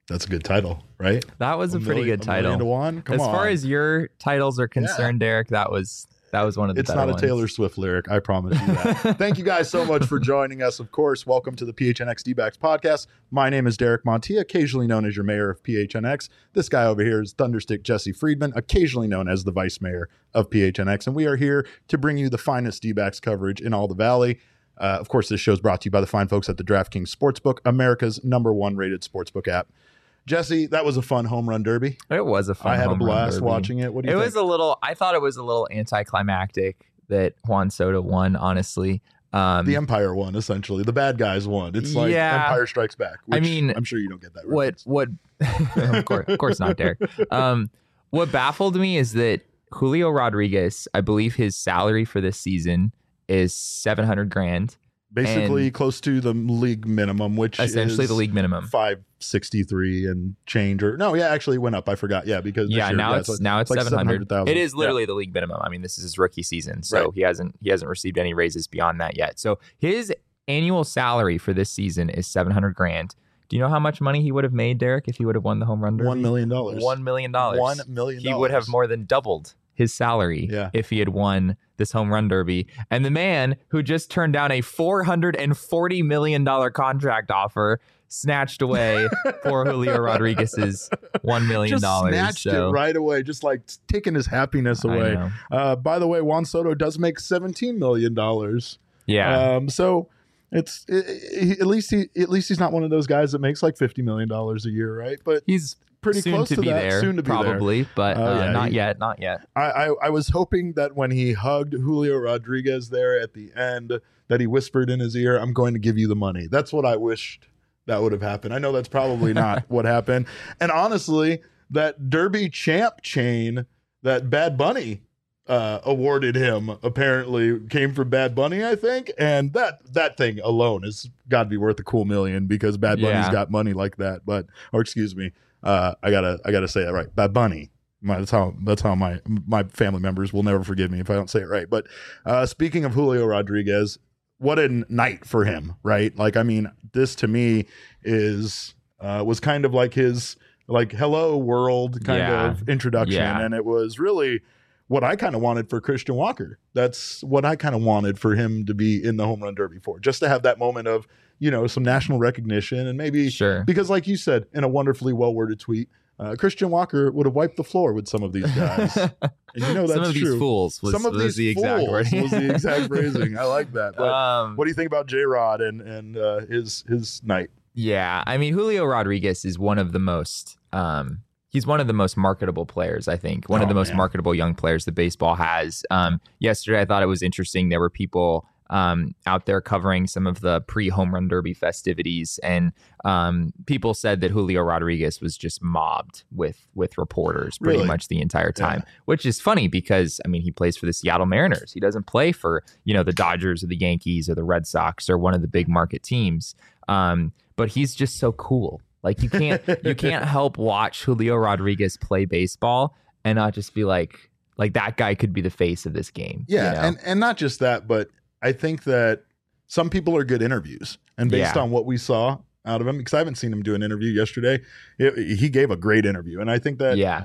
That's a good title, right? That was a pretty good title. $1 million to one. Come as on. far as your titles are concerned, Derek, that was one of the It's better not a ones. Taylor Swift lyric, I promise you that. Thank you guys so much for joining us. Of course, welcome to the PHNX D-backs podcast. My name is Derek Montia, occasionally known as your mayor of PHNX. This guy over here is Thunderstick Jesse Friedman, occasionally known as the vice mayor of PHNX. And we are here to bring you the finest D-backs coverage in all the Valley. Of course, this show is brought to you by the fine folks at the DraftKings Sportsbook, America's #1 rated sportsbook app. Jesse, that was a fun home run derby. It was a fun I had a home run blast derby. watching it. What do you think? I thought it was a little anticlimactic that Juan Soto won, honestly. The Empire won, essentially. The bad guys won. It's like Empire Strikes Back. Which I mean, I'm sure you don't get that reference. What of course not, Derek. What baffled me is that Julio Rodriguez, I believe his salary for this season is $700,000. Basically close to the league minimum, which essentially is the league minimum, $563 and change. Or no, actually it went up. I forgot. Yeah, because now it's like 700,000. It is literally the league minimum. I mean, this is his rookie season, so he hasn't received any raises beyond that yet. So his annual salary for this season is $700,000. Do you know how much money he would have made, Derek, if he would have won the home run derby? $1 million. $1 million. $1 million. He would have more than doubled his salary if he had won this home run derby. And the man who just turned down a $440 million contract offer snatched away poor Julio Rodriguez's $1 million. Just snatched it right away, just like taking his happiness away. By the way, Juan Soto does make $17 million. Yeah. So it's at least he's not one of those guys that makes like $50 million a year, right? But he's pretty close to that. There, soon to be probably, there. But not yet. I was hoping that when he hugged Julio Rodriguez there at the end, that he whispered in his ear, "I'm going to give you the money." That's what I wished that would have happened. I know that's probably not what happened. And honestly, that Derby champ chain that Bad Bunny awarded him apparently came from Bad Bunny, I think. And that thing alone has got to be worth a cool $1 million because Bad Bunny's got money like that. Or excuse me. I gotta say that right. Bad Bunny. That's how my family members will never forgive me if I don't say it right. But speaking of Julio Rodriguez, what a night for him, right? Like, I mean, this to me was kind of like his hello world kind of introduction, and it was really what I kind of wanted for Christian Walker. That's what I kind of wanted for him to be in the home run derby for, just to have that moment of, some national recognition and maybe because like you said in a wonderfully well-worded tweet, Christian Walker would have wiped the floor with some of these guys. And that's some of true. These fools was, some of was these the exact fools was the exact phrasing. I like that. But what do you think about J-Rod and his night? Yeah, I mean, Julio Rodriguez is one of the most he's one of the most marketable players, I think. One of the most marketable young players that baseball has. Yesterday, I thought it was interesting. There were people out there covering some of the pre-home run derby festivities, and people said that Julio Rodriguez was just mobbed with reporters pretty much the entire time, which is funny because, I mean, he plays for the Seattle Mariners. He doesn't play for, the Dodgers or the Yankees or the Red Sox or one of the big market teams. But he's just so cool. Like, you can't help watch Julio Rodriguez play baseball and not just be like that guy could be the face of this game. Yeah, and not just that, but I think that some people are good interviews, and based on what we saw out of him, because I haven't seen him do an interview yesterday, he gave a great interview, and I think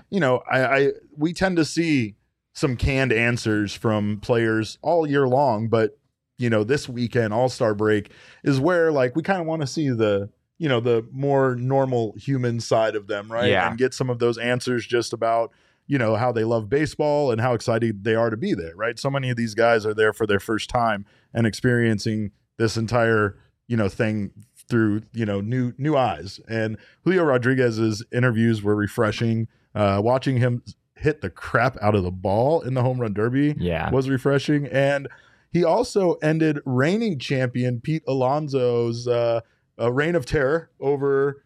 that we tend to see some canned answers from players all year long, but this weekend All-Star break is where we kind of want to see the more normal human side of them, right? And get some of those answers just about how they love baseball and how excited they are to be there, right? So many of these guys are there for their first time and experiencing this entire, thing through, new eyes. And Julio Rodriguez's interviews were refreshing. Watching him hit the crap out of the ball in the home run derby was refreshing. And he also ended reigning champion Pete Alonso's reign of terror over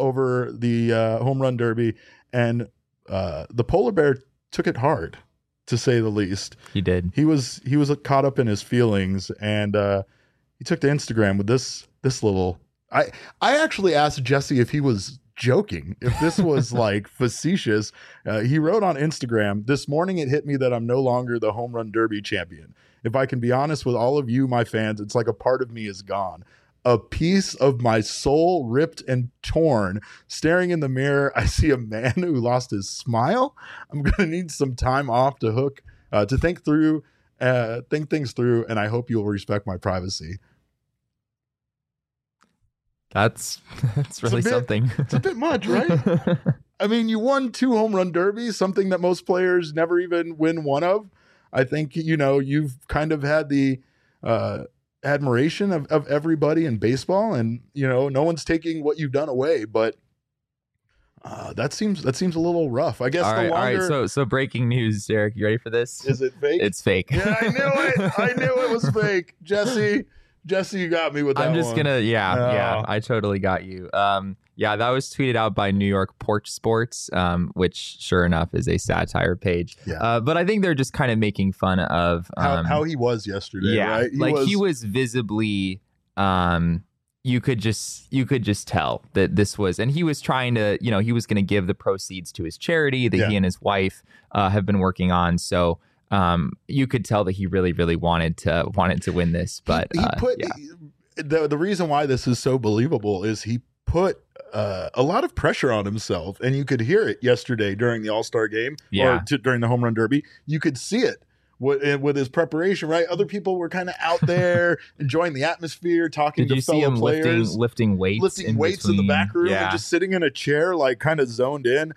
the home run derby. And the polar bear took it hard, to say the least. He did. He was caught up in his feelings, and he took to Instagram with this little. I actually asked Jesse if he was joking, if this was facetious. He wrote on Instagram, "This morning it hit me that I'm no longer the home run derby champion. If I can be honest with all of you, my fans, it's like a part of me is gone. a piece of my soul ripped and torn. Staring in the mirror, I see a man who lost his smile. I'm going to need some time off to think things through, and I hope you'll respect my privacy. That's really something. It's a bit much, right? I mean, you won 2 home run derbies, something that most players never even win one of. I think, you've kind of had the admiration of everybody in baseball, and, no one's taking what you've done away, but that seems a little rough. I guess all right. So breaking news, Derek, you ready for this? Is it fake? It's fake. Yeah, I knew it was fake. Jesse, you got me with that one. I'm just gonna, I totally got you. That was tweeted out by New York Porch Sports, which sure enough is a satire page. Yeah. But I think they're just kind of making fun of how he was yesterday. Yeah, right? He was visibly, you could just tell that this was, and he was trying to, he was going to give the proceeds to his charity that he and his wife have been working on. So. You could tell that he really, really wanted to win this, but the reason why this is so believable is he put a lot of pressure on himself, and you could hear it yesterday during the All-Star game or during the home run derby. You could see it with his preparation, right? Other people were kind of out there enjoying the atmosphere, talking to fellow players, lifting weights in the back room, and just sitting in a chair, like kind of zoned in.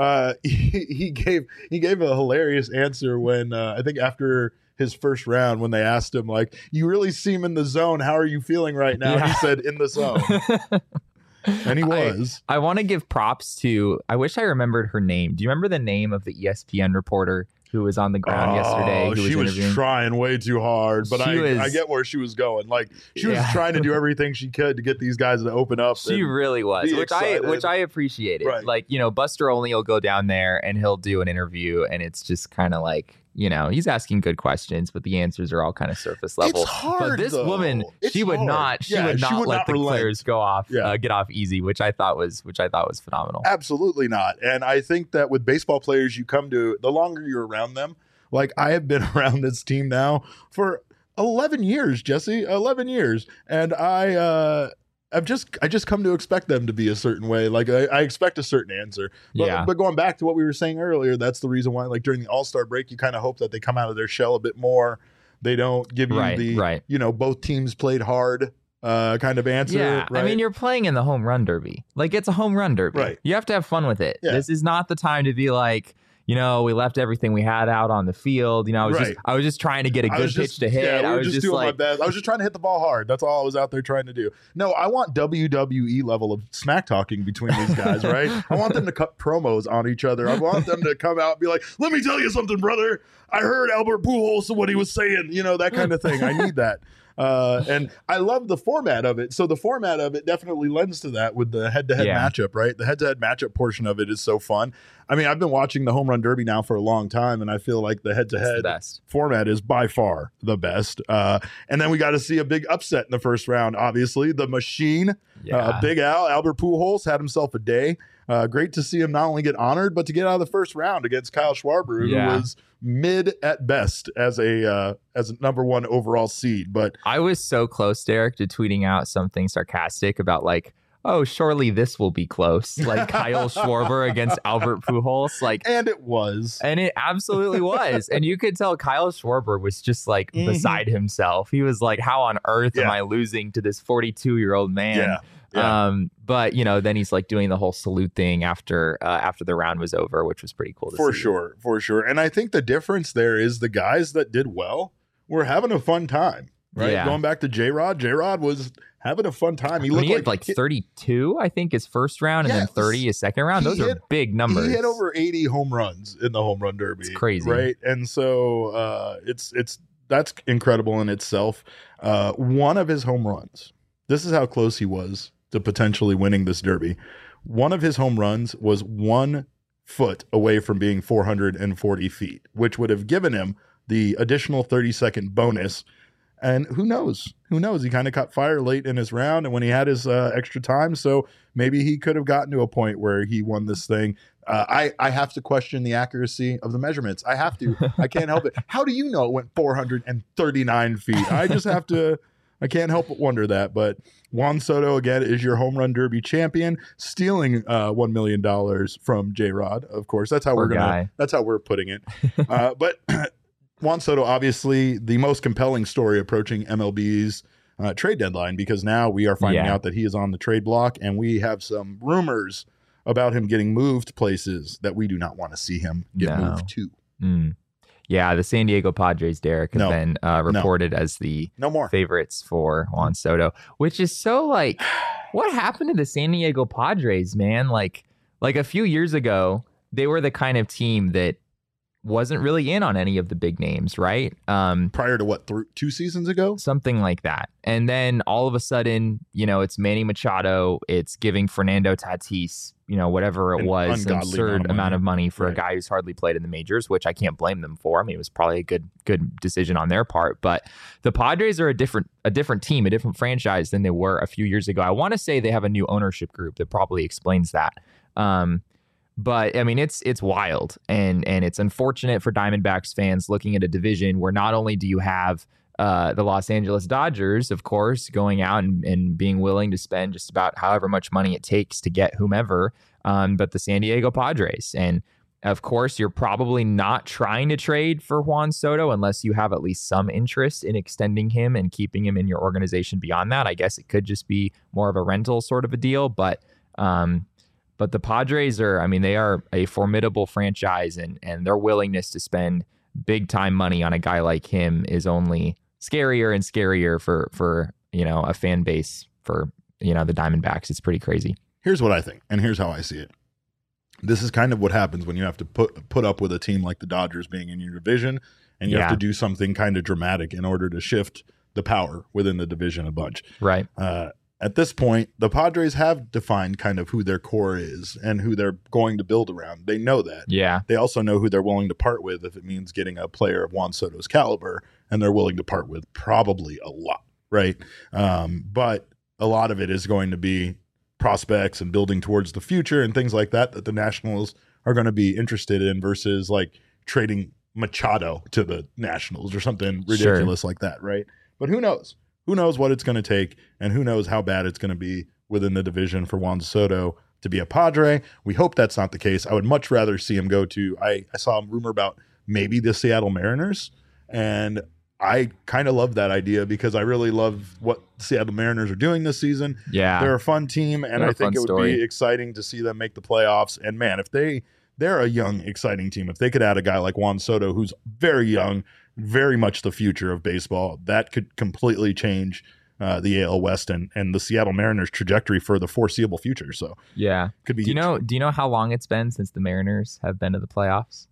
He gave a hilarious answer when I think after his first round, when they asked him, like, you really seem in the zone, how are you feeling right now? And he said, in the zone. And he was. I want to give props to, I wish I remembered her name. Do you remember the name of the ESPN reporter who was on the ground yesterday? She was trying way too hard, but I get where she was going. Like, she was trying to do everything she could to get these guys to open up. She really was, which I appreciated. Right. Like, Buster Olney will go down there and he'll do an interview, and it's just kind of like, he's asking good questions, but the answers are all kind of surface level. It's hard, but this woman, she would not let the players get off easy, which I thought was phenomenal. Absolutely not. And I think that with baseball players, you come to, the longer you're around them, like I have been around this team now for 11 years, Jesse, 11 years. And I just come to expect them to be a certain way. Like I expect a certain answer. But going back to what we were saying earlier, that's the reason why, like during the All-Star break, you kind of hope that they come out of their shell a bit more. They don't give you both teams played hard kind of answer. Yeah, right? I mean, you're playing in the home run derby. Like, it's a home run derby. Right. You have to have fun with it. Yeah. This is not the time to be like, we left everything we had out on the field. I was just trying to get a good pitch to hit. Yeah, I was just doing my best. I was just trying to hit the ball hard. That's all I was out there trying to do. No, I want WWE level of smack talking between these guys, right? I want them to cut promos on each other. I want them to come out and be like, let me tell you something, brother. I heard Albert Pujols and what he was saying, that kind of thing. I need that. And I love the format of it. So the format of it definitely lends to that with the head-to-head matchup, right? The head-to-head matchup portion of it is so fun. I mean, I've been watching the home run derby now for a long time, and I feel like the head-to-head format is by far the best. And then we got to see a big upset in the first round. Obviously, the machine, Big Al, Albert Pujols had himself a day. Great to see him not only get honored, but to get out of the first round against Kyle Schwarber, who was mid at best as a number 1 overall seed. But I was so close, Derek, to tweeting out something sarcastic about like, oh, surely this will be close. Like Kyle Schwarber against Albert Pujols. And it was. And it absolutely was. And you could tell Kyle Schwarber was just like beside himself. He was like, how on earth am I losing to this 42-year-old man? Yeah. But then he's like doing the whole salute thing after the round was over, which was pretty cool to see. For sure. And I think the difference there is the guys that did well were having a fun time, right? Yeah. Going back to J-Rod was having a fun time. He had like 32, I think, his first round, and then 30 his second round. Those are big numbers. He hit over 80 home runs in the home run derby. It's crazy, right? And so that's incredible in itself. One of his home runs. This is how close he was to potentially winning this derby. One of his home runs was 1 foot away from being 440 feet, which would have given him the additional 30-second bonus. And who knows? He kind of caught fire late in his round and when he had his extra time. So maybe he could have gotten to a point where he won this thing. I have to question the accuracy of the measurements. I have to. I can't help it. How do you know it went 439 feet? I just have to I can't help but wonder that. But Juan Soto, again, is your home run derby champion, stealing $1 million from J-Rod. Of course, that's how that's how we're putting it. But Juan Soto, obviously, the most compelling story approaching MLB's trade deadline, because now we are finding out that he is on the trade block, and we have some rumors about him getting moved places that we do not want to see him get moved to. Yeah, the San Diego Padres, Derek, have been reported as the favorites for Juan Soto, which is so like, what happened to the San Diego Padres, man? Like a few years ago, they were the kind of team that wasn't really in on any of the big names, right? Prior to what, 2 seasons ago? Something like that. And then all of a sudden, it's Manny Machado, it's giving Fernando Tatis, whatever it was, an absurd amount of money for a guy who's hardly played in the majors, which I can't blame them for. I mean, it was probably a good decision on their part. But the Padres are a different team, a different franchise than they were a few years ago. I want to say they have a new ownership group that probably explains that. But I mean, it's wild, and it's unfortunate for Diamondbacks fans looking at a division where not only do you have the Los Angeles Dodgers, of course, going out and being willing to spend just about however much money it takes to get whomever, but the San Diego Padres. And of course, you're probably not trying to trade for Juan Soto unless you have at least some interest in extending him and keeping him in your organization beyond that. I guess it could just be more of a rental sort of a deal, but the Padres they are a formidable franchise, and their willingness to spend big time money on a guy like him is only scarier and scarier for a fan base for the Diamondbacks. It's pretty crazy. Here's what I think, and here's how I see it. This is kind of what happens when you have to put up with a team like the Dodgers being in your division, and you have to do something kind of dramatic in order to shift the power within the division a bunch. Right. At this point, the Padres have defined kind of who their core is and who they're going to build around. They know that. Yeah. They also know who they're willing to part with if it means getting a player of Juan Soto's caliber, and they're willing to part with probably a lot, right? But a lot of it is going to be prospects and building towards the future and things like that the Nationals are going to be interested in versus like trading Machado to the Nationals or something ridiculous like that, right? But who knows? Who knows what it's going to take, and who knows how bad it's going to be within the division for Juan Soto to be a Padre. We hope that's not the case. I would much rather see him go to, I saw a rumor about maybe the Seattle Mariners, and I kind of love that idea because I really love what the Seattle Mariners are doing this season. Yeah. They're a fun team, and I think it would be exciting to see them make the playoffs. And man, if they're a young, exciting team. If they could add a guy like Juan Soto, who's very young, very much the future of baseball, that could completely change the AL West and the Seattle Mariners trajectory for the foreseeable future. So yeah, could be. Do you know how long it's been since the Mariners have been to the playoffs?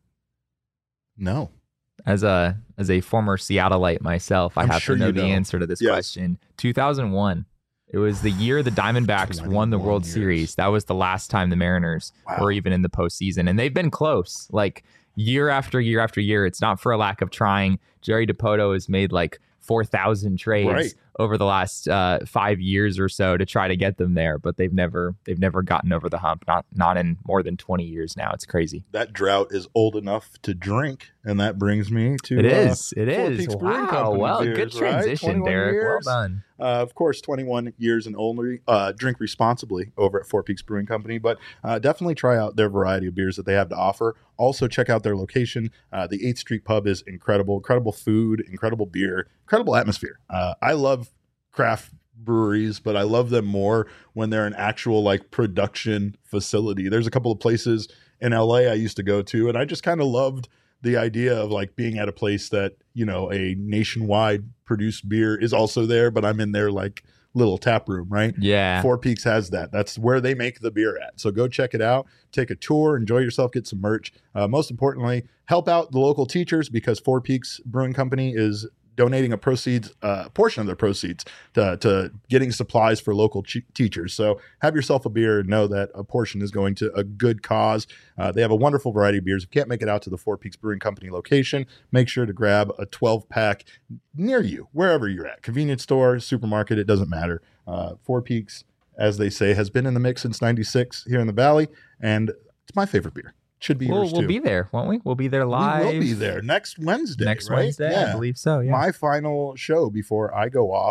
No. As a former Seattleite myself, I have to know the answer to this question. 2001. It was the year the Diamondbacks won the World Series. That was the last time the Mariners were even in the postseason, and they've been close. Like year after year after year. It's not for a lack of trying. Jerry Dipoto has made like 4,000 trades over the last 5 years or so to try to get them there, but they've never gotten over the hump. Not in more than 20 years now. It's crazy. That drought is old enough to drink, and that brings me to it is. Four Peaks Brewing Wow. Company Well, beers, good transition, right? Derek. Years. Well done. Of course, 21 years and only. Drink responsibly over at Four Peaks Brewing Company, but definitely try out their variety of beers that they have to offer. Also, check out their location. The 8th Street Pub is incredible. Incredible food, incredible beer, incredible atmosphere. I love craft breweries, but I love them more when they're an actual like production facility. There's a couple of places in LA I used to go to, and I just kind of loved the idea of like being at a place that, you know, a nationwide produced beer is also there, but I'm in their like little tap room, right? Yeah. Four Peaks has that. That's where they make the beer at. So go check it out, take a tour, enjoy yourself, get some merch. Most importantly, help out the local teachers because Four Peaks Brewing Company is donating a portion of their proceeds to getting supplies for local teachers. So have yourself a beer and know that a portion is going to a good cause. They have a wonderful variety of beers. If you can't make it out to the Four Peaks Brewing Company location, make sure to grab a 12-pack near you, wherever you're at. Convenience store, supermarket, it doesn't matter. Four Peaks, as they say, has been in the mix since 96 here in the Valley, and it's my favorite beer. Should be yours too. We'll be there, won't we? We'll be there live. We will be there next Wednesday. Next right? Wednesday, yeah. I believe so. Yeah. My final show before I go off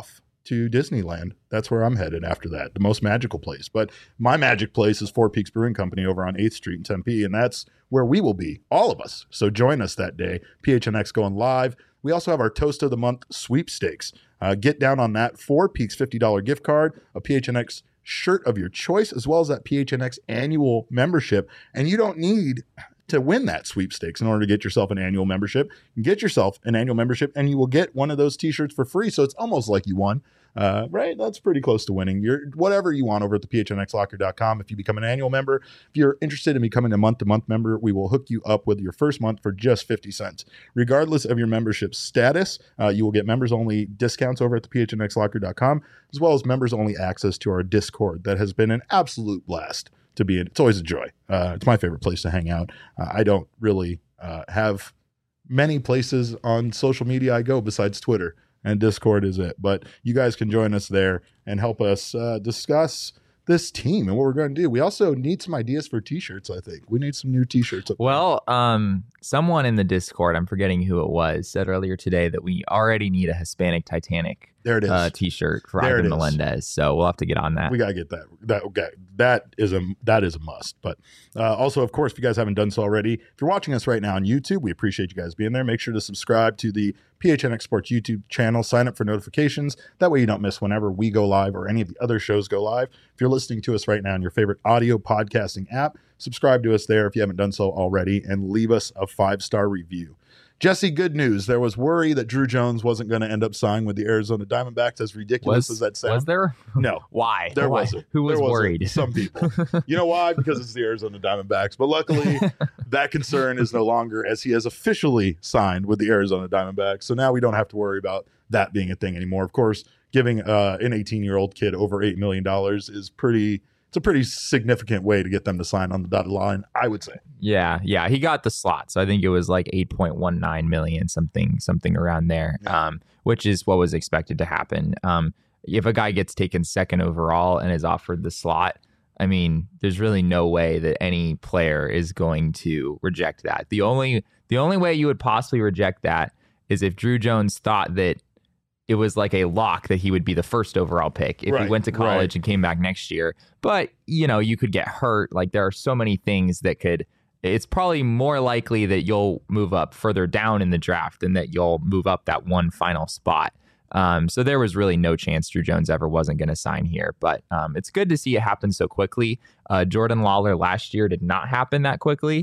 to Disneyland. That's where I'm headed after that, the most magical place. But my magic place is Four Peaks Brewing Company over on 8th Street in Tempe, and that's where we will be, all of us. So join us that day. PHNX going live. We also have our Toast of the Month sweepstakes. Get down on that. Four Peaks $50 gift card, a PHNX shirt of your choice, as well as that PHNX annual membership. And you don't need to win that sweepstakes in order to get yourself an annual membership. You can get yourself an annual membership and you will get one of those t-shirts for free. So it's almost like you won, right? That's pretty close to winning. Whatever you want over at the phnxlocker.com. If you become an annual member, if you're interested in becoming a month-to-month member, we will hook you up with your first month for just 50 cents. Regardless of your membership status, you will get members-only discounts over at the phnxlocker.com, as well as members-only access to our Discord. That has been an absolute blast to be in. It's always a joy. It's my favorite place to hang out. I don't really have many places on social media I go besides Twitter, and Discord is it. But you guys can join us there and help us discuss this team and what we're going to do. We also need some ideas for t-shirts. I think we need some new t-shirts. Well, someone in the Discord, I'm forgetting who it was, said earlier today that we already need a Hispanic Titanic there it is. T-shirt for Ivan Melendez. So we'll have to get on that. We got to get that. That is a must. But also, of course, if you guys haven't done so already, if you're watching us right now on YouTube, we appreciate you guys being there. Make sure to subscribe to the PHNX Sports YouTube channel. Sign up for notifications. That way you don't miss whenever we go live or any of the other shows go live. If you're listening to us right now on your favorite audio podcasting app, subscribe to us there if you haven't done so already, and leave us a 5-star review. Jesse, good news. There was worry that Drew Jones wasn't going to end up signing with the Arizona Diamondbacks, as ridiculous as that sounds. Was there? No. Why? There wasn't. Who was worried? Some people. You know why? Because it's the Arizona Diamondbacks. But luckily, that concern is no longer, as he has officially signed with the Arizona Diamondbacks. So now we don't have to worry about that being a thing anymore. Of course, giving an 18-year-old kid over $8 million is it's a pretty significant way to get them to sign on the dotted line, I would say. Yeah. He got the slot. So I think it was like 8.19 million, something around there, which is what was expected to happen. If a guy gets taken second overall and is offered the slot, I mean, there's really no way that any player is going to reject that. The only way you would possibly reject that is if Drew Jones thought that it was like a lock that he would be the first overall pick if he went to college and came back next year. But, you could get hurt. Like, there are so many things that it's probably more likely that you'll move up further down in the draft than that you'll move up that one final spot. So there was really no chance Drew Jones ever wasn't going to sign here. But it's good to see it happen so quickly. Jordan Lawler last year did not happen that quickly.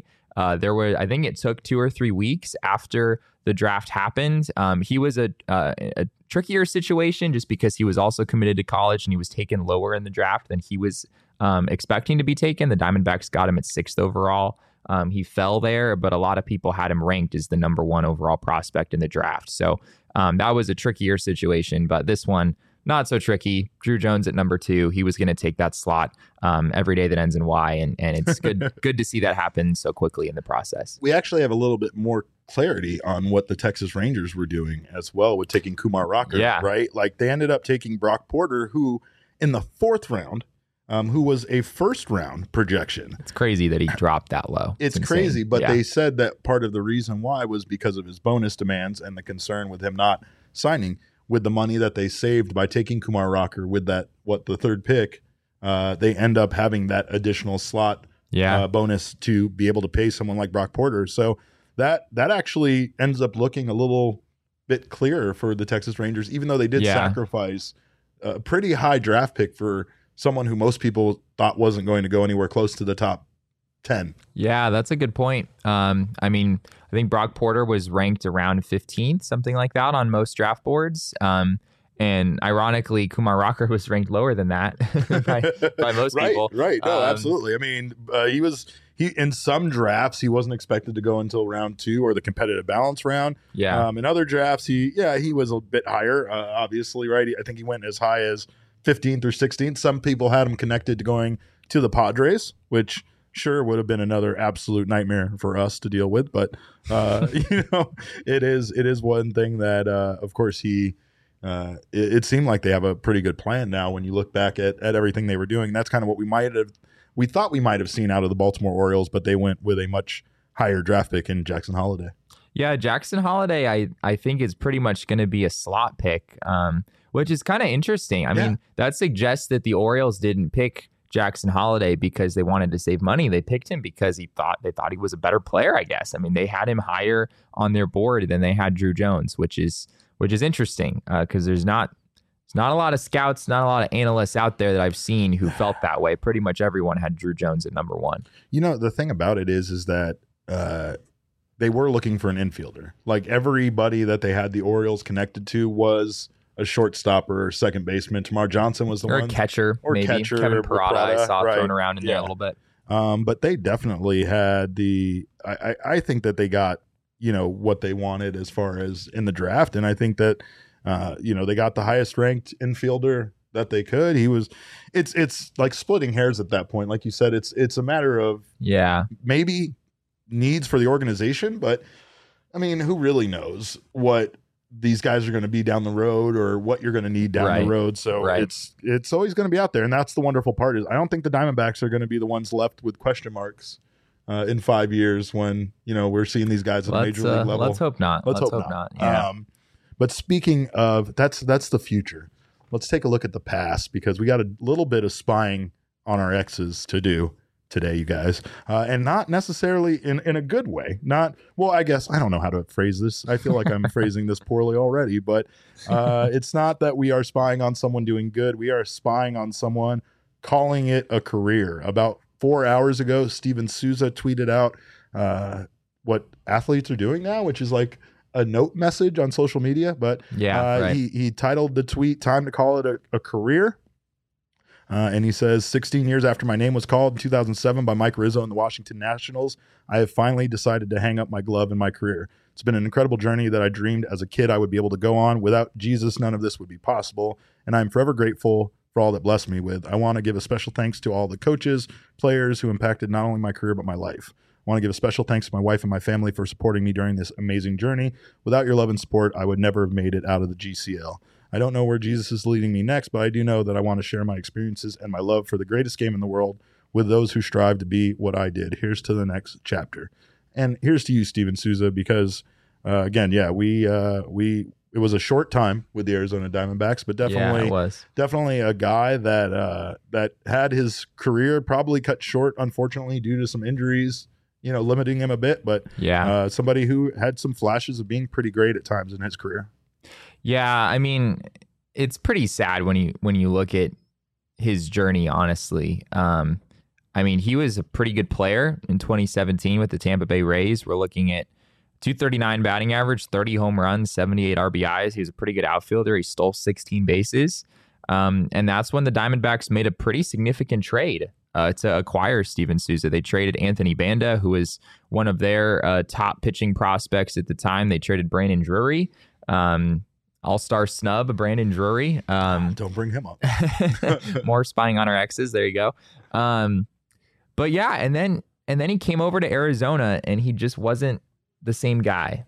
I think it took 2 or 3 weeks after the draft happened. He was a trickier situation just because he was also committed to college and he was taken lower in the draft than he was expecting to be taken. The Diamondbacks got him at 6th overall. He fell there, but a lot of people had him ranked as the number 1 overall prospect in the draft. So that was a trickier situation, but this one, not so tricky. Drew Jones at number 2. He was going to take that slot every day that ends in Y, and it's good to see that happen so quickly in the process. We actually have a little bit more clarity on what the Texas Rangers were doing as well with taking Kumar Rocker, right? Like, they ended up taking Brock Porter, who in the 4th round, who was a first-round projection. It's crazy that he dropped that low. It's crazy, but they said that part of the reason why was because of his bonus demands and the concern with him not signing. With the money that they saved by taking Kumar Rocker with that, the 3rd pick, they end up having that additional slot bonus to be able to pay someone like Brock Porter. So that actually ends up looking a little bit clearer for the Texas Rangers, even though they did sacrifice a pretty high draft pick for someone who most people thought wasn't going to go anywhere close to the top 10. Yeah, that's a good point. I mean, I think Brock Porter was ranked around 15th, something like that, on most draft boards. And ironically, Kumar Rocker was ranked lower than that by most people. Right. No, absolutely. I mean, he in some drafts, he wasn't expected to go until round 2 or the competitive balance round. Yeah. In other drafts, he was a bit higher, obviously, right? I think he went as high as 15th or 16th. Some people had him connected to going to the Padres, which sure would have been another absolute nightmare for us to deal with. But, it is one thing that, of course, it seemed like they have a pretty good plan now when you look back at everything they were doing. That's kind of what we thought we might have seen out of the Baltimore Orioles, but they went with a much higher draft pick in Jackson Holliday. Yeah, Jackson Holiday, I think is pretty much going to be a slot pick, which is kind of interesting. I mean, that suggests that the Orioles didn't pick Jackson Holiday because they wanted to save money. They picked him because they thought he was a better player, I guess. I mean, they had him higher on their board than they had Drew Jones, which is interesting because there's not a lot of scouts, not a lot of analysts out there that I've seen who felt that way. Pretty much everyone had Drew Jones at number 1. You know, the thing about it is that they were looking for an infielder. Like everybody that they had the Orioles connected to was a shortstop or second baseman. Tamar Johnson was the one. Or catcher, maybe. Catcher. Kevin Parada, I saw thrown around in there a little bit. But they definitely had I think that they got, what they wanted as far as in the draft. And I think that, they got the highest ranked infielder that they could. It's like splitting hairs at that point. Like you said, it's a matter of maybe needs for the organization, but I mean, who really knows what these guys are going to be down the road or what you're going to need down the road. So it's always going to be out there. And that's the wonderful part is I don't think the Diamondbacks are going to be the ones left with question marks in 5 years when, we're seeing these guys at a major league level. Let's hope not. Let's hope not. Yeah. But speaking of, that's the future. Let's take a look at the past because we got a little bit of spying on our exes to do today, you guys, and not necessarily in a good way. I guess I don't know how to phrase this. I feel like I'm phrasing this poorly already, but it's not that we are spying on someone doing good. We are spying on someone calling it a career. About 4 hours ago, Steven Souza tweeted out what athletes are doing now, which is like a note message on social media. But he titled the tweet, "Time to call it a career." And he says, 16 years after my name was called in 2007 by Mike Rizzo and the Washington Nationals, I have finally decided to hang up my glove in my career. It's been an incredible journey that I dreamed as a kid I would be able to go on. Without Jesus, none of this would be possible. And I'm forever grateful for all that blessed me with. I want to give a special thanks to all the coaches, players who impacted not only my career, but my life. I want to give a special thanks to my wife and my family for supporting me during this amazing journey. Without your love and support, I would never have made it out of the GCL. I don't know where Jesus is leading me next, but I do know that I want to share my experiences and my love for the greatest game in the world with those who strive to be what I did. Here's to the next chapter. And here's to you, Steven Souza, because again, it was a short time with the Arizona Diamondbacks, but definitely a guy that had his career probably cut short, unfortunately, due to some injuries, limiting him a bit. But somebody who had some flashes of being pretty great at times in his career. Yeah, I mean, it's pretty sad when you look at his journey, honestly. I mean, he was a pretty good player in 2017 with the Tampa Bay Rays. We're looking at 239 batting average, 30 home runs, 78 RBIs. He was a pretty good outfielder. He stole 16 bases. And that's when the Diamondbacks made a pretty significant trade to acquire Steven Souza. They traded Anthony Banda, who was one of their top pitching prospects at the time. They traded Brandon Drury. All-star snub, Brandon Drury. Don't bring him up. More spying on our exes. There you go. But yeah, and then he came over to Arizona, and he just wasn't the same guy.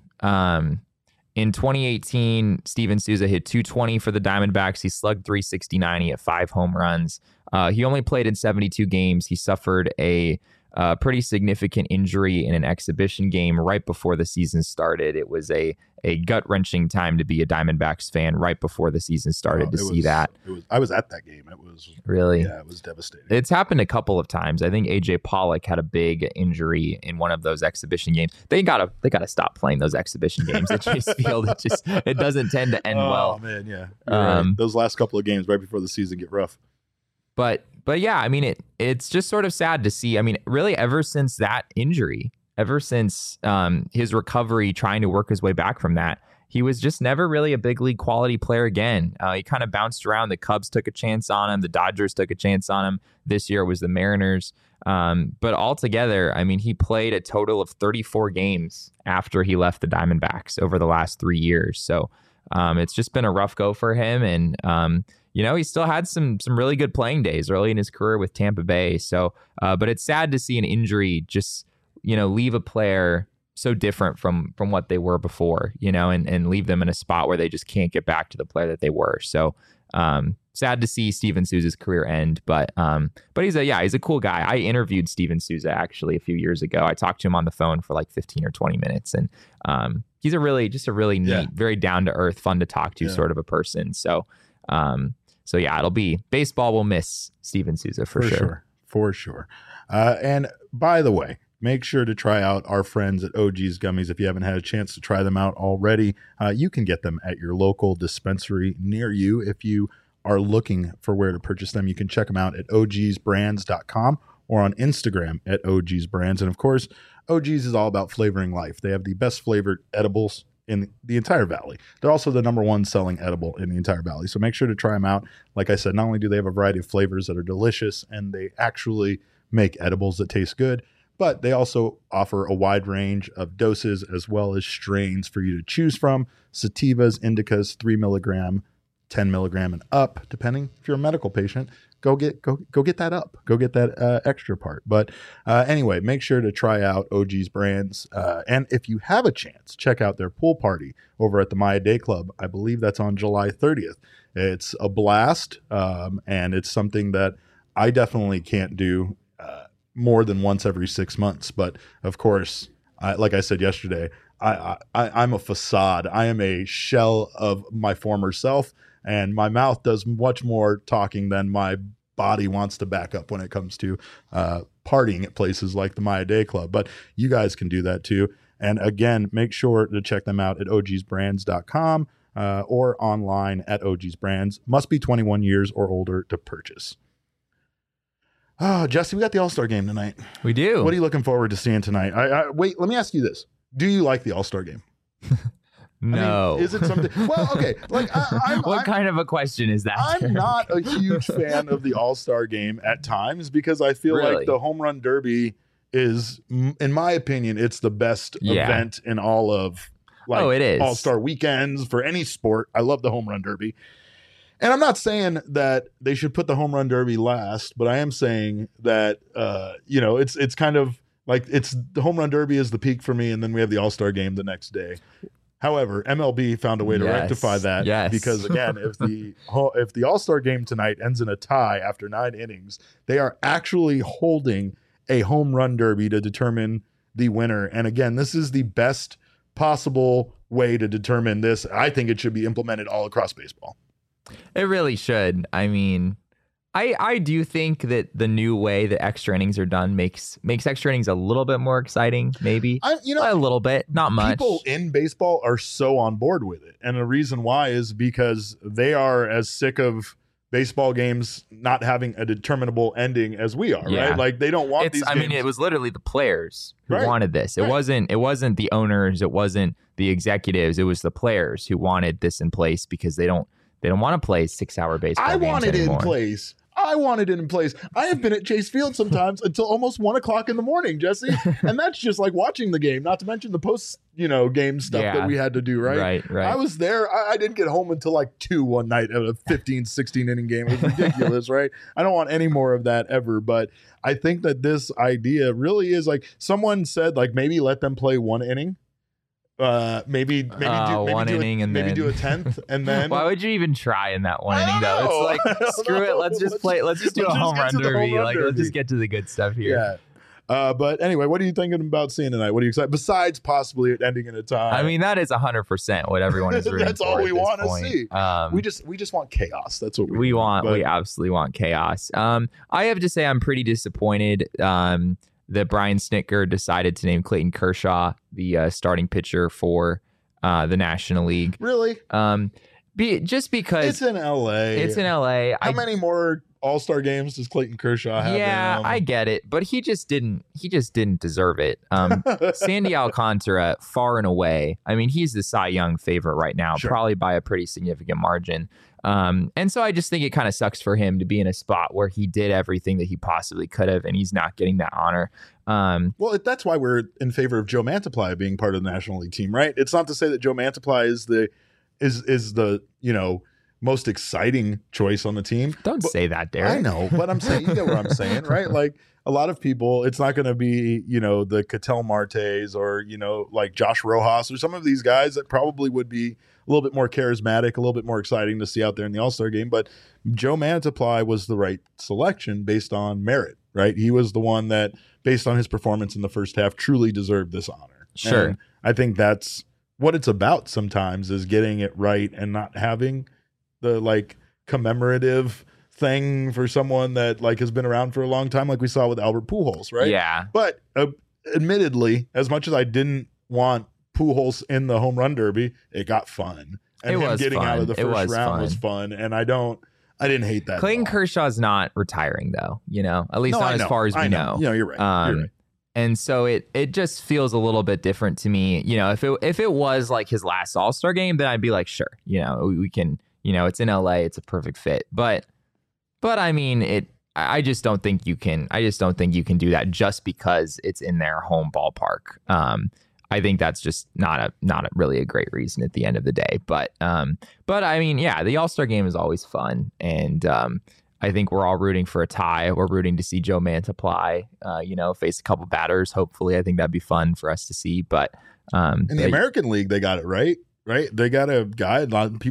In 2018, Steven Souza hit 220 for the Diamondbacks. He slugged 369. He had 5 home runs. He only played in 72 games. He suffered a pretty significant injury in an exhibition game right before the season started. It was a gut-wrenching time to be a Diamondbacks fan right before the season started see that. I was at that game. It was really, it was devastating. It's happened a couple of times. I think AJ Pollock had a big injury in one of those exhibition games. They gotta stop playing those exhibition games at Chase Field. It doesn't tend to end well. Oh man, yeah. Right. Those last couple of games right before the season get rough. But yeah, I mean, it's just sort of sad to see. I mean, really, ever since that injury, ever since his recovery, trying to work his way back from that, he was just never really a big league quality player again. He kind of bounced around. The Cubs took a chance on him. The Dodgers took a chance on him. This year it was the Mariners. But altogether, I mean, he played a total of 34 games after he left the Diamondbacks over the last 3 years. So it's just been a rough go for him. And, he still had some really good playing days early in his career with Tampa Bay. So, but it's sad to see an injury just, leave a player so different from what they were before, and leave them in a spot where they just can't get back to the player that they were. So sad to see Steven Souza's career end, but he's a cool guy. I interviewed Steven Souza actually a few years ago. I talked to him on the phone for like 15 or 20 minutes, and he's a really neat, very down to earth, fun to talk to sort of a person. So it'll be baseball will miss Steven Souza for sure. And by the way, make sure to try out our friends at OG's Gummies. If you haven't had a chance to try them out already, you can get them at your local dispensary near you. If you are looking for where to purchase them, you can check them out at ogsbrands.com or on Instagram at ogsbrands. And of course, OG's is all about flavoring life. They have the best flavored edibles in the entire valley. They're also the number one selling edible in the entire valley. So make sure to try them out. Like I said, not only do they have a variety of flavors that are delicious and they actually make edibles that taste good, but they also offer a wide range of doses as well as strains for you to choose from. Sativas, indicas, 3 milligram, 10 milligram and up, depending if you're a medical patient. Go get that up. Go get that extra part. But anyway, make sure to try out OG's Brands. And if you have a chance, check out their pool party over at the Maya Day Club. I believe that's on July 30th. It's a blast, and it's something that I definitely can't do more than once every 6 months. But of course, like I said yesterday, I'm a facade. I am a shell of my former self, and my mouth does much more talking than my body wants to back up when it comes to partying at places like the Maya Day Club. But you guys can do that too. And again, make sure to check them out at ogsbrands.com or online at ogsbrands. Must be 21 years or older to purchase. Oh, Jesse, we got the All-Star game tonight. We do. What are you looking forward to seeing tonight? Wait, let me ask you this. Do you like the All-Star game? No. I mean, is it something? Well, okay. Like, what kind of a question is that? I'm not a huge fan of the All-Star game at times because I feel like the Home Run Derby is, in my opinion, it's the best event in all of it is. All-Star weekends for any sport. I love the Home Run Derby. And I'm not saying that they should put the Home Run Derby last, but I am saying that, it's kind of like the Home Run Derby is the peak for me, and then we have the All-Star game the next day. However, MLB found a way to rectify that because, again, if the All-Star game tonight ends in a tie after 9 innings, they are actually holding a Home Run Derby to determine the winner. And again, this is the best possible way to determine this. I think it should be implemented all across baseball. It really should. I mean, I do think that the new way that extra innings are done makes extra innings a little bit more exciting, maybe. A little bit, not much. People in baseball are so on board with it. And the reason why is because they are as sick of baseball games not having a determinable ending as we are, right? Like they don't want these games. I mean, it was literally the players who wanted this. It wasn't the owners, it wasn't the executives, it was the players who wanted this in place because they don't want to play 6-hour baseball games anymore. I wanted it in place. I have been at Chase Field sometimes until almost 1 o'clock in the morning, Jesse. And that's just like watching the game, not to mention the post, game stuff that we had to do, right? Right. I was there. I didn't get home until like 2 one night at a 15, 16 inning game. It was ridiculous, right? I don't want any more of that ever. But I think that this idea really is like someone said, like maybe let them play 1 inning. Maybe do 1 inning and maybe do a 10th and then why would you even try in that 1 inning though? It's like screw it, let's just do a home run derby. Let's just get to the good stuff here. But anyway, what are you thinking about seeing tonight? What are you excited besides possibly it ending in a tie? I mean, that is 100% what everyone is rooting that's for. All we want to see. We just want chaos. That's what we want. We absolutely want chaos. I have to say I'm pretty disappointed that Brian Snitker decided to name Clayton Kershaw the starting pitcher for the National League. Really? Just because it's in LA. How many more All-Star games does Clayton Kershaw have? Yeah, I get it, but he just didn't deserve it. Sandy Alcantara, far and away. I mean, he's the Cy Young favorite right now, probably by a pretty significant margin. And so I just think it kind of sucks for him to be in a spot where he did everything that he possibly could have, and he's not getting that honor. Well, that's why we're in favor of Joe Mantiply being part of the National League team, right? It's not to say that Joe Mantiply is the most exciting choice on the team. Don't say that, Derek. I know, but I'm saying, you get what I'm saying, right? Like a lot of people, it's not going to be, the Ketel Martes or, like Josh Rojas or some of these guys that probably would be a little bit more charismatic, a little bit more exciting to see out there in the All-Star game. But Joe Mantiply was the right selection based on merit, right? He was the one that, based on his performance in the first half, truly deserved this honor. Sure. And I think that's what it's about sometimes, is getting it right and not having the like commemorative thing for someone that like has been around for a long time, like we saw with Albert Pujols, right? Yeah. But admittedly, as much as I didn't want Pujols in the home run derby, it got fun. And it him was getting fun. out of the first round fun. was fun. And I didn't hate that. Clayton Kershaw's not retiring though, at least not as far as we know. You're right. You're right. And so it just feels a little bit different to me. If it was like his last All-Star game, then I'd be like, sure, we can, it's in LA, it's a perfect fit. But I mean, I just don't think you can do that just because it's in their home ballpark. I think that's just not really a great reason at the end of the day. But I mean, yeah, the All-Star game is always fun, and I think we're all rooting for a tie. We're rooting to see Joe Mantiply, face a couple batters. Hopefully, I think that'd be fun for us to see. But in the American League, they got it right. They got a guy.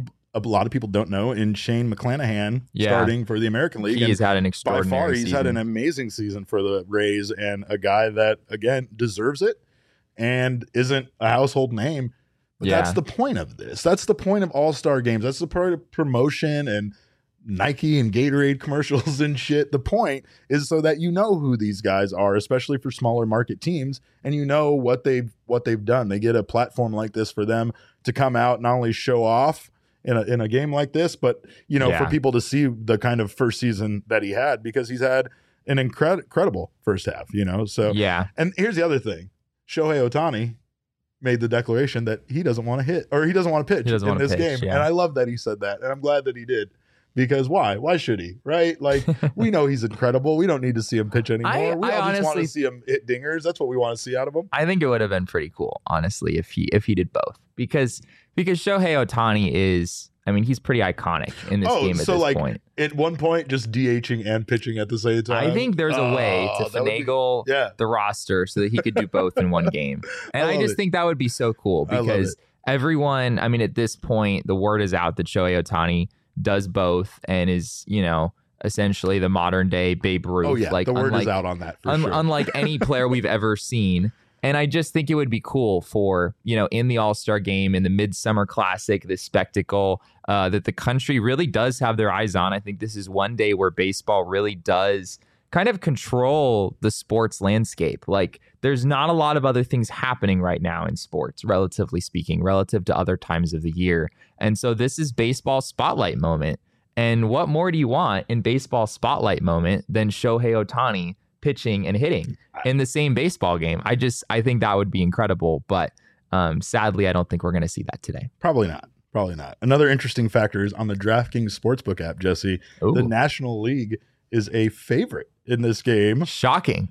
A lot of people don't know, in Shane McClanahan starting for the American League. He's had an extraordinary by far, he's season. had an amazing season for the Rays, and a guy that, again, deserves it and isn't a household name. But that's the point of this. That's the point of All-Star games. That's the part of promotion and Nike and Gatorade commercials and shit. The point is so that you know who these guys are, especially for smaller market teams, and you know what they've done. They get a platform like this for them to come out, not only show off in a game like this, but for people to see the kind of first season that he had, because he's had an incredible first half. So yeah. And here's the other thing: Shohei Ohtani made the declaration that he doesn't want to hit, or he doesn't want to pitch in this game, and I love that he said that, and I'm glad that he did. Because why? Why should he? Right? Like, we know he's incredible. We don't need to see him pitch anymore. We all just want to see him hit dingers. That's what we want to see out of him. I think it would have been pretty cool, honestly, if he did both. Because Shohei Ohtani is, I mean, he's pretty iconic in this game at this point. At one point, just DHing and pitching at the same time. I think there's a way to finagle the roster so that he could do both in one game. And I just think that would be so cool, because everyone, I mean, at this point, the word is out that Shohei Ohtani does both and is, essentially the modern day Babe Ruth. Oh yeah, like, the word is out on that for sure. Unlike any player we've ever seen. And I just think it would be cool for, in the All-Star game, in the Midsummer Classic, this spectacle that the country really does have their eyes on. I think this is one day where baseball really does kind of control the sports landscape. Like, there's not a lot of other things happening right now in sports, relatively speaking, relative to other times of the year. And so this is baseball spotlight moment. And what more do you want in baseball spotlight moment than Shohei Ohtani pitching and hitting in the same baseball game? I think that would be incredible. But sadly, I don't think we're going to see that today. Probably not. Another interesting factor is on the DraftKings Sportsbook app, Jesse. Ooh. The National League is a favorite in this game. Shocking.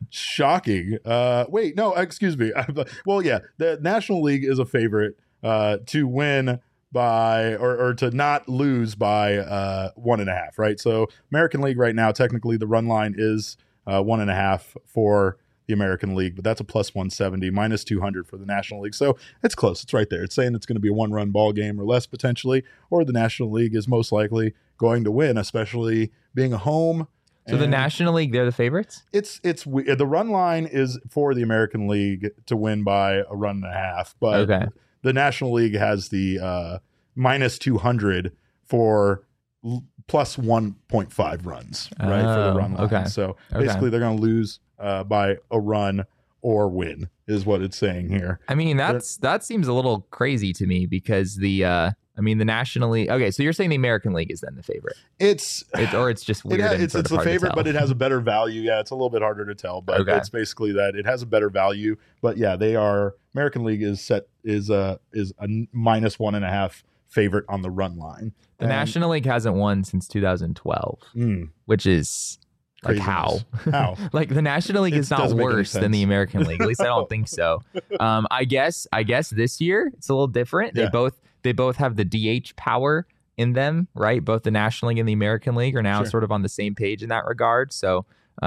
Wait, no, excuse me. Well, yeah, the National League is a favorite to win by or to not lose by 1.5, right? So American League right now, technically the run line is 1.5 for the American League, but that's a plus 170, minus 200 for the National League. So it's close. It's right there. It's saying it's going to be a one-run ball game or less potentially, or the National League is most likely going to win, especially being a home. So the National League, they're the favorites? It's the run line is for the American League to win by a run and a half, but the National League has the minus 200 for plus 1.5 runs, right, for the run line. Okay. So basically they're going to lose by a run or win is what it's saying here. I mean, that seems a little crazy to me, because the National League. Okay, so you're saying the American League is then the favorite? It's just weird. It's the favorite, but it has a better value. Yeah, it's a little bit harder to tell, but it's basically that it has a better value. But yeah, they are. American League is a minus 1.5 favorite on the run line. The National League hasn't won since 2012, which is. Like how? Like the National League is not worse than the American League. At least I don't think so. I guess this year it's a little different. Yeah. They both have the DH power. in them, right? Both the National League and the American League are now sort of on the same page in that regard. So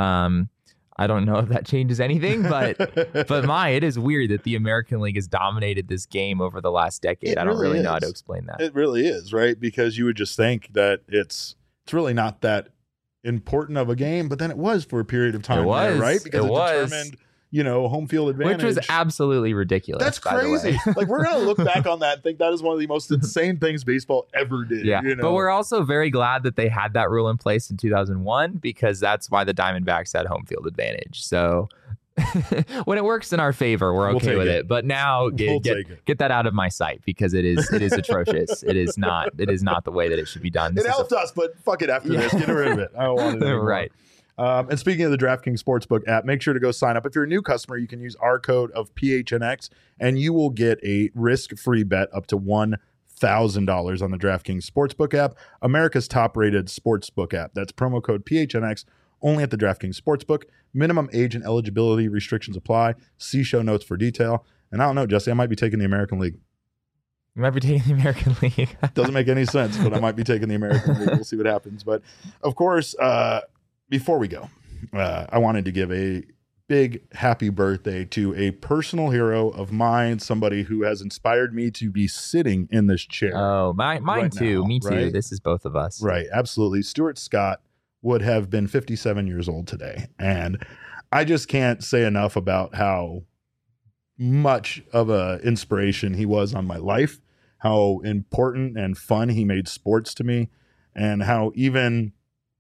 I don't know if that changes anything, but it is weird that the American League has dominated this game over the last decade. I don't really know how to explain that. It really is, right? Because you would just think that it's really not that important of a game, but then it was for a period of time, right? Because it determined, home field advantage, which was absolutely ridiculous. That's crazy. Like, we're gonna look back on that and think that is one of the most insane things baseball ever did. Yeah, but we're also very glad that they had that rule in place in 2001 because that's why the Diamondbacks had home field advantage. So when it works in our favor, we're okay with it. But now get that out of my sight because it is atrocious. It is not the way that it should be done. It helped us, but fuck it after this. Get rid of it. I don't want it anymore. Right. And speaking of the DraftKings Sportsbook app, make sure to go sign up. If you're a new customer, you can use our code of PHNX, and you will get a risk-free bet up to $1,000 on the DraftKings Sportsbook app, America's top-rated sportsbook app. That's promo code PHNX only at the DraftKings Sportsbook. Minimum age and eligibility restrictions apply. See show notes for detail. And I don't know, Jesse, I might be taking the American League. You might be taking the American League. Doesn't make any sense, but I might be taking the American League. We'll see what happens. But, of course, before we go, I wanted to give a big happy birthday to a personal hero of mine, somebody who has inspired me to be sitting in this chair. Oh, mine too. Me too. Right? This is both of us. Right. Absolutely. Stuart Scott would have been 57 years old today. And I just can't say enough about how much of an inspiration he was on my life, how important and fun he made sports to me, and how even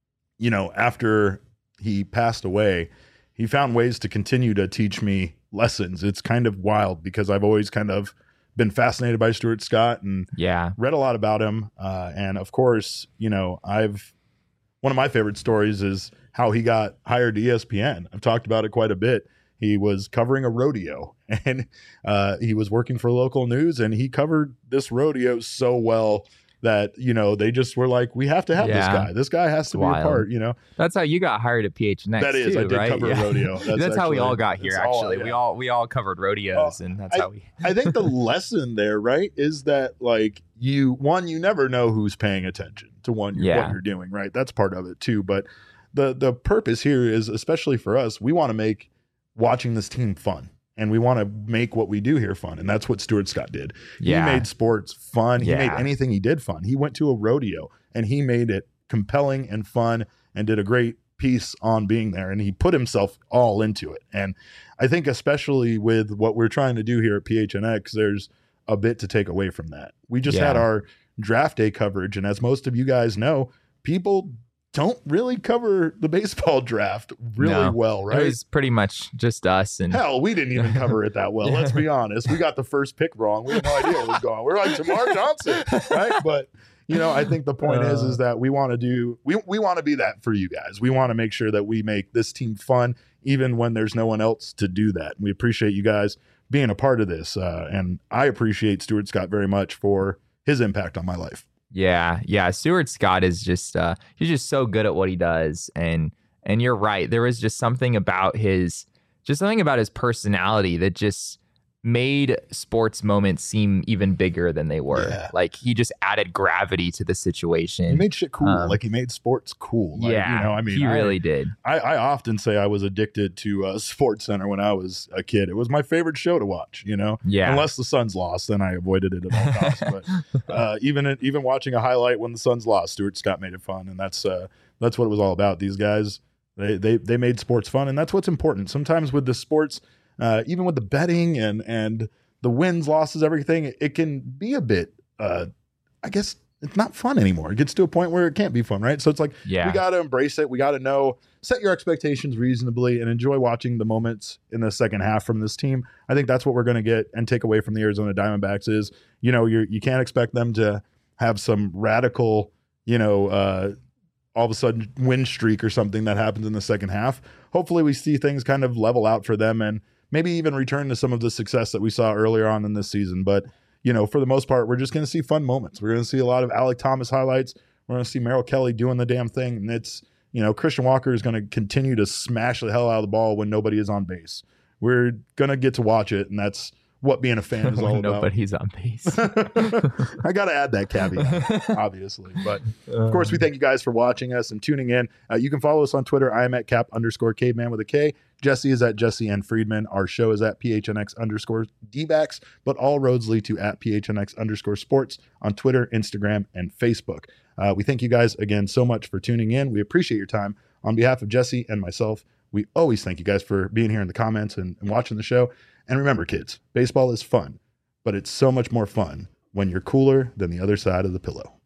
after he passed away, he found ways to continue to teach me lessons. It's kind of wild because I've always kind of been fascinated by Stuart Scott and read a lot about him. And of course, one of my favorite stories is how he got hired to ESPN. I've talked about it quite a bit. He was covering a rodeo and he was working for local news, and he covered this rodeo so well that, they just were like, we have to have this guy. This guy has to be a part, That's how you got hired at PHNX. That is, too, I did right? cover a rodeo. That's how we all got here, actually. We all covered rodeos, and that's how we... I think the lesson there, right, is that, like, you never know who's paying attention to what you're doing, right? That's part of it, too. But the purpose here is, especially for us, we want to make watching this team fun. And we want to make what we do here fun. And that's what Stuart Scott did. Yeah. He made sports fun. He made anything he did fun. He went to a rodeo and he made it compelling and fun and did a great piece on being there. And he put himself all into it. And I think especially with what we're trying to do here at PHNX, there's a bit to take away from that. We just had our draft day coverage. And as most of you guys know, people don't really cover the baseball draft really well, right? It was pretty much just us. And hell, we didn't even cover it that well. Let's be honest. We got the first pick wrong. We had no idea what was going on. We're like Jamar Johnson, right? But I think the point is that we want to we want to be that for you guys. We want to make sure that we make this team fun, even when there's no one else to do that. We appreciate you guys being a part of this, and I appreciate Stuart Scott very much for his impact on my life. Yeah. Stuart Scott is just he's just so good at what he does, and you're right. There was just something about his personality that just made sports moments seem even bigger than they were. Yeah. Like, he just added gravity to the situation. He made shit cool. Like, he made sports cool. Like, he really did. I often say I was addicted to Sports Center when I was a kid. It was my favorite show to watch, Yeah. Unless the Suns lost, then I avoided it at all costs. But even watching a highlight when the Suns lost, Stuart Scott made it fun. And that's what it was all about. These guys, they made sports fun. And that's what's important. Sometimes with the sports, even with the betting and the wins, losses, everything, it can be a bit, I guess it's not fun anymore. It gets to a point where it can't be fun, right? So it's like, we got to embrace it. We got to set your expectations reasonably and enjoy watching the moments in the second half from this team. I think that's what we're going to get and take away from the Arizona Diamondbacks is, you can't expect them to have some radical, all of a sudden win streak or something that happens in the second half. Hopefully we see things kind of level out for them and maybe even return to some of the success that we saw earlier on in this season. But, for the most part, we're just going to see fun moments. We're going to see a lot of Alek Thomas highlights. We're going to see Merrill Kelly doing the damn thing. And it's, Christian Walker is going to continue to smash the hell out of the ball when nobody is on base. We're going to get to watch it. And that's what being a fan is all When about. nobody's on base. I got to add that caveat, obviously. But of course, we thank you guys for watching us and tuning in. You can follow us on Twitter. I am at @cap_caveman with a K. Jesse is at Jesse N. Friedman. Our show is at PHNX_DBacks, but all roads lead to @PHNX_sports on Twitter, Instagram, and Facebook. We thank you guys again so much for tuning in. We appreciate your time. On behalf of Jesse and myself, we always thank you guys for being here in the comments and watching the show. And remember, kids, baseball is fun, but it's so much more fun when you're cooler than the other side of the pillow.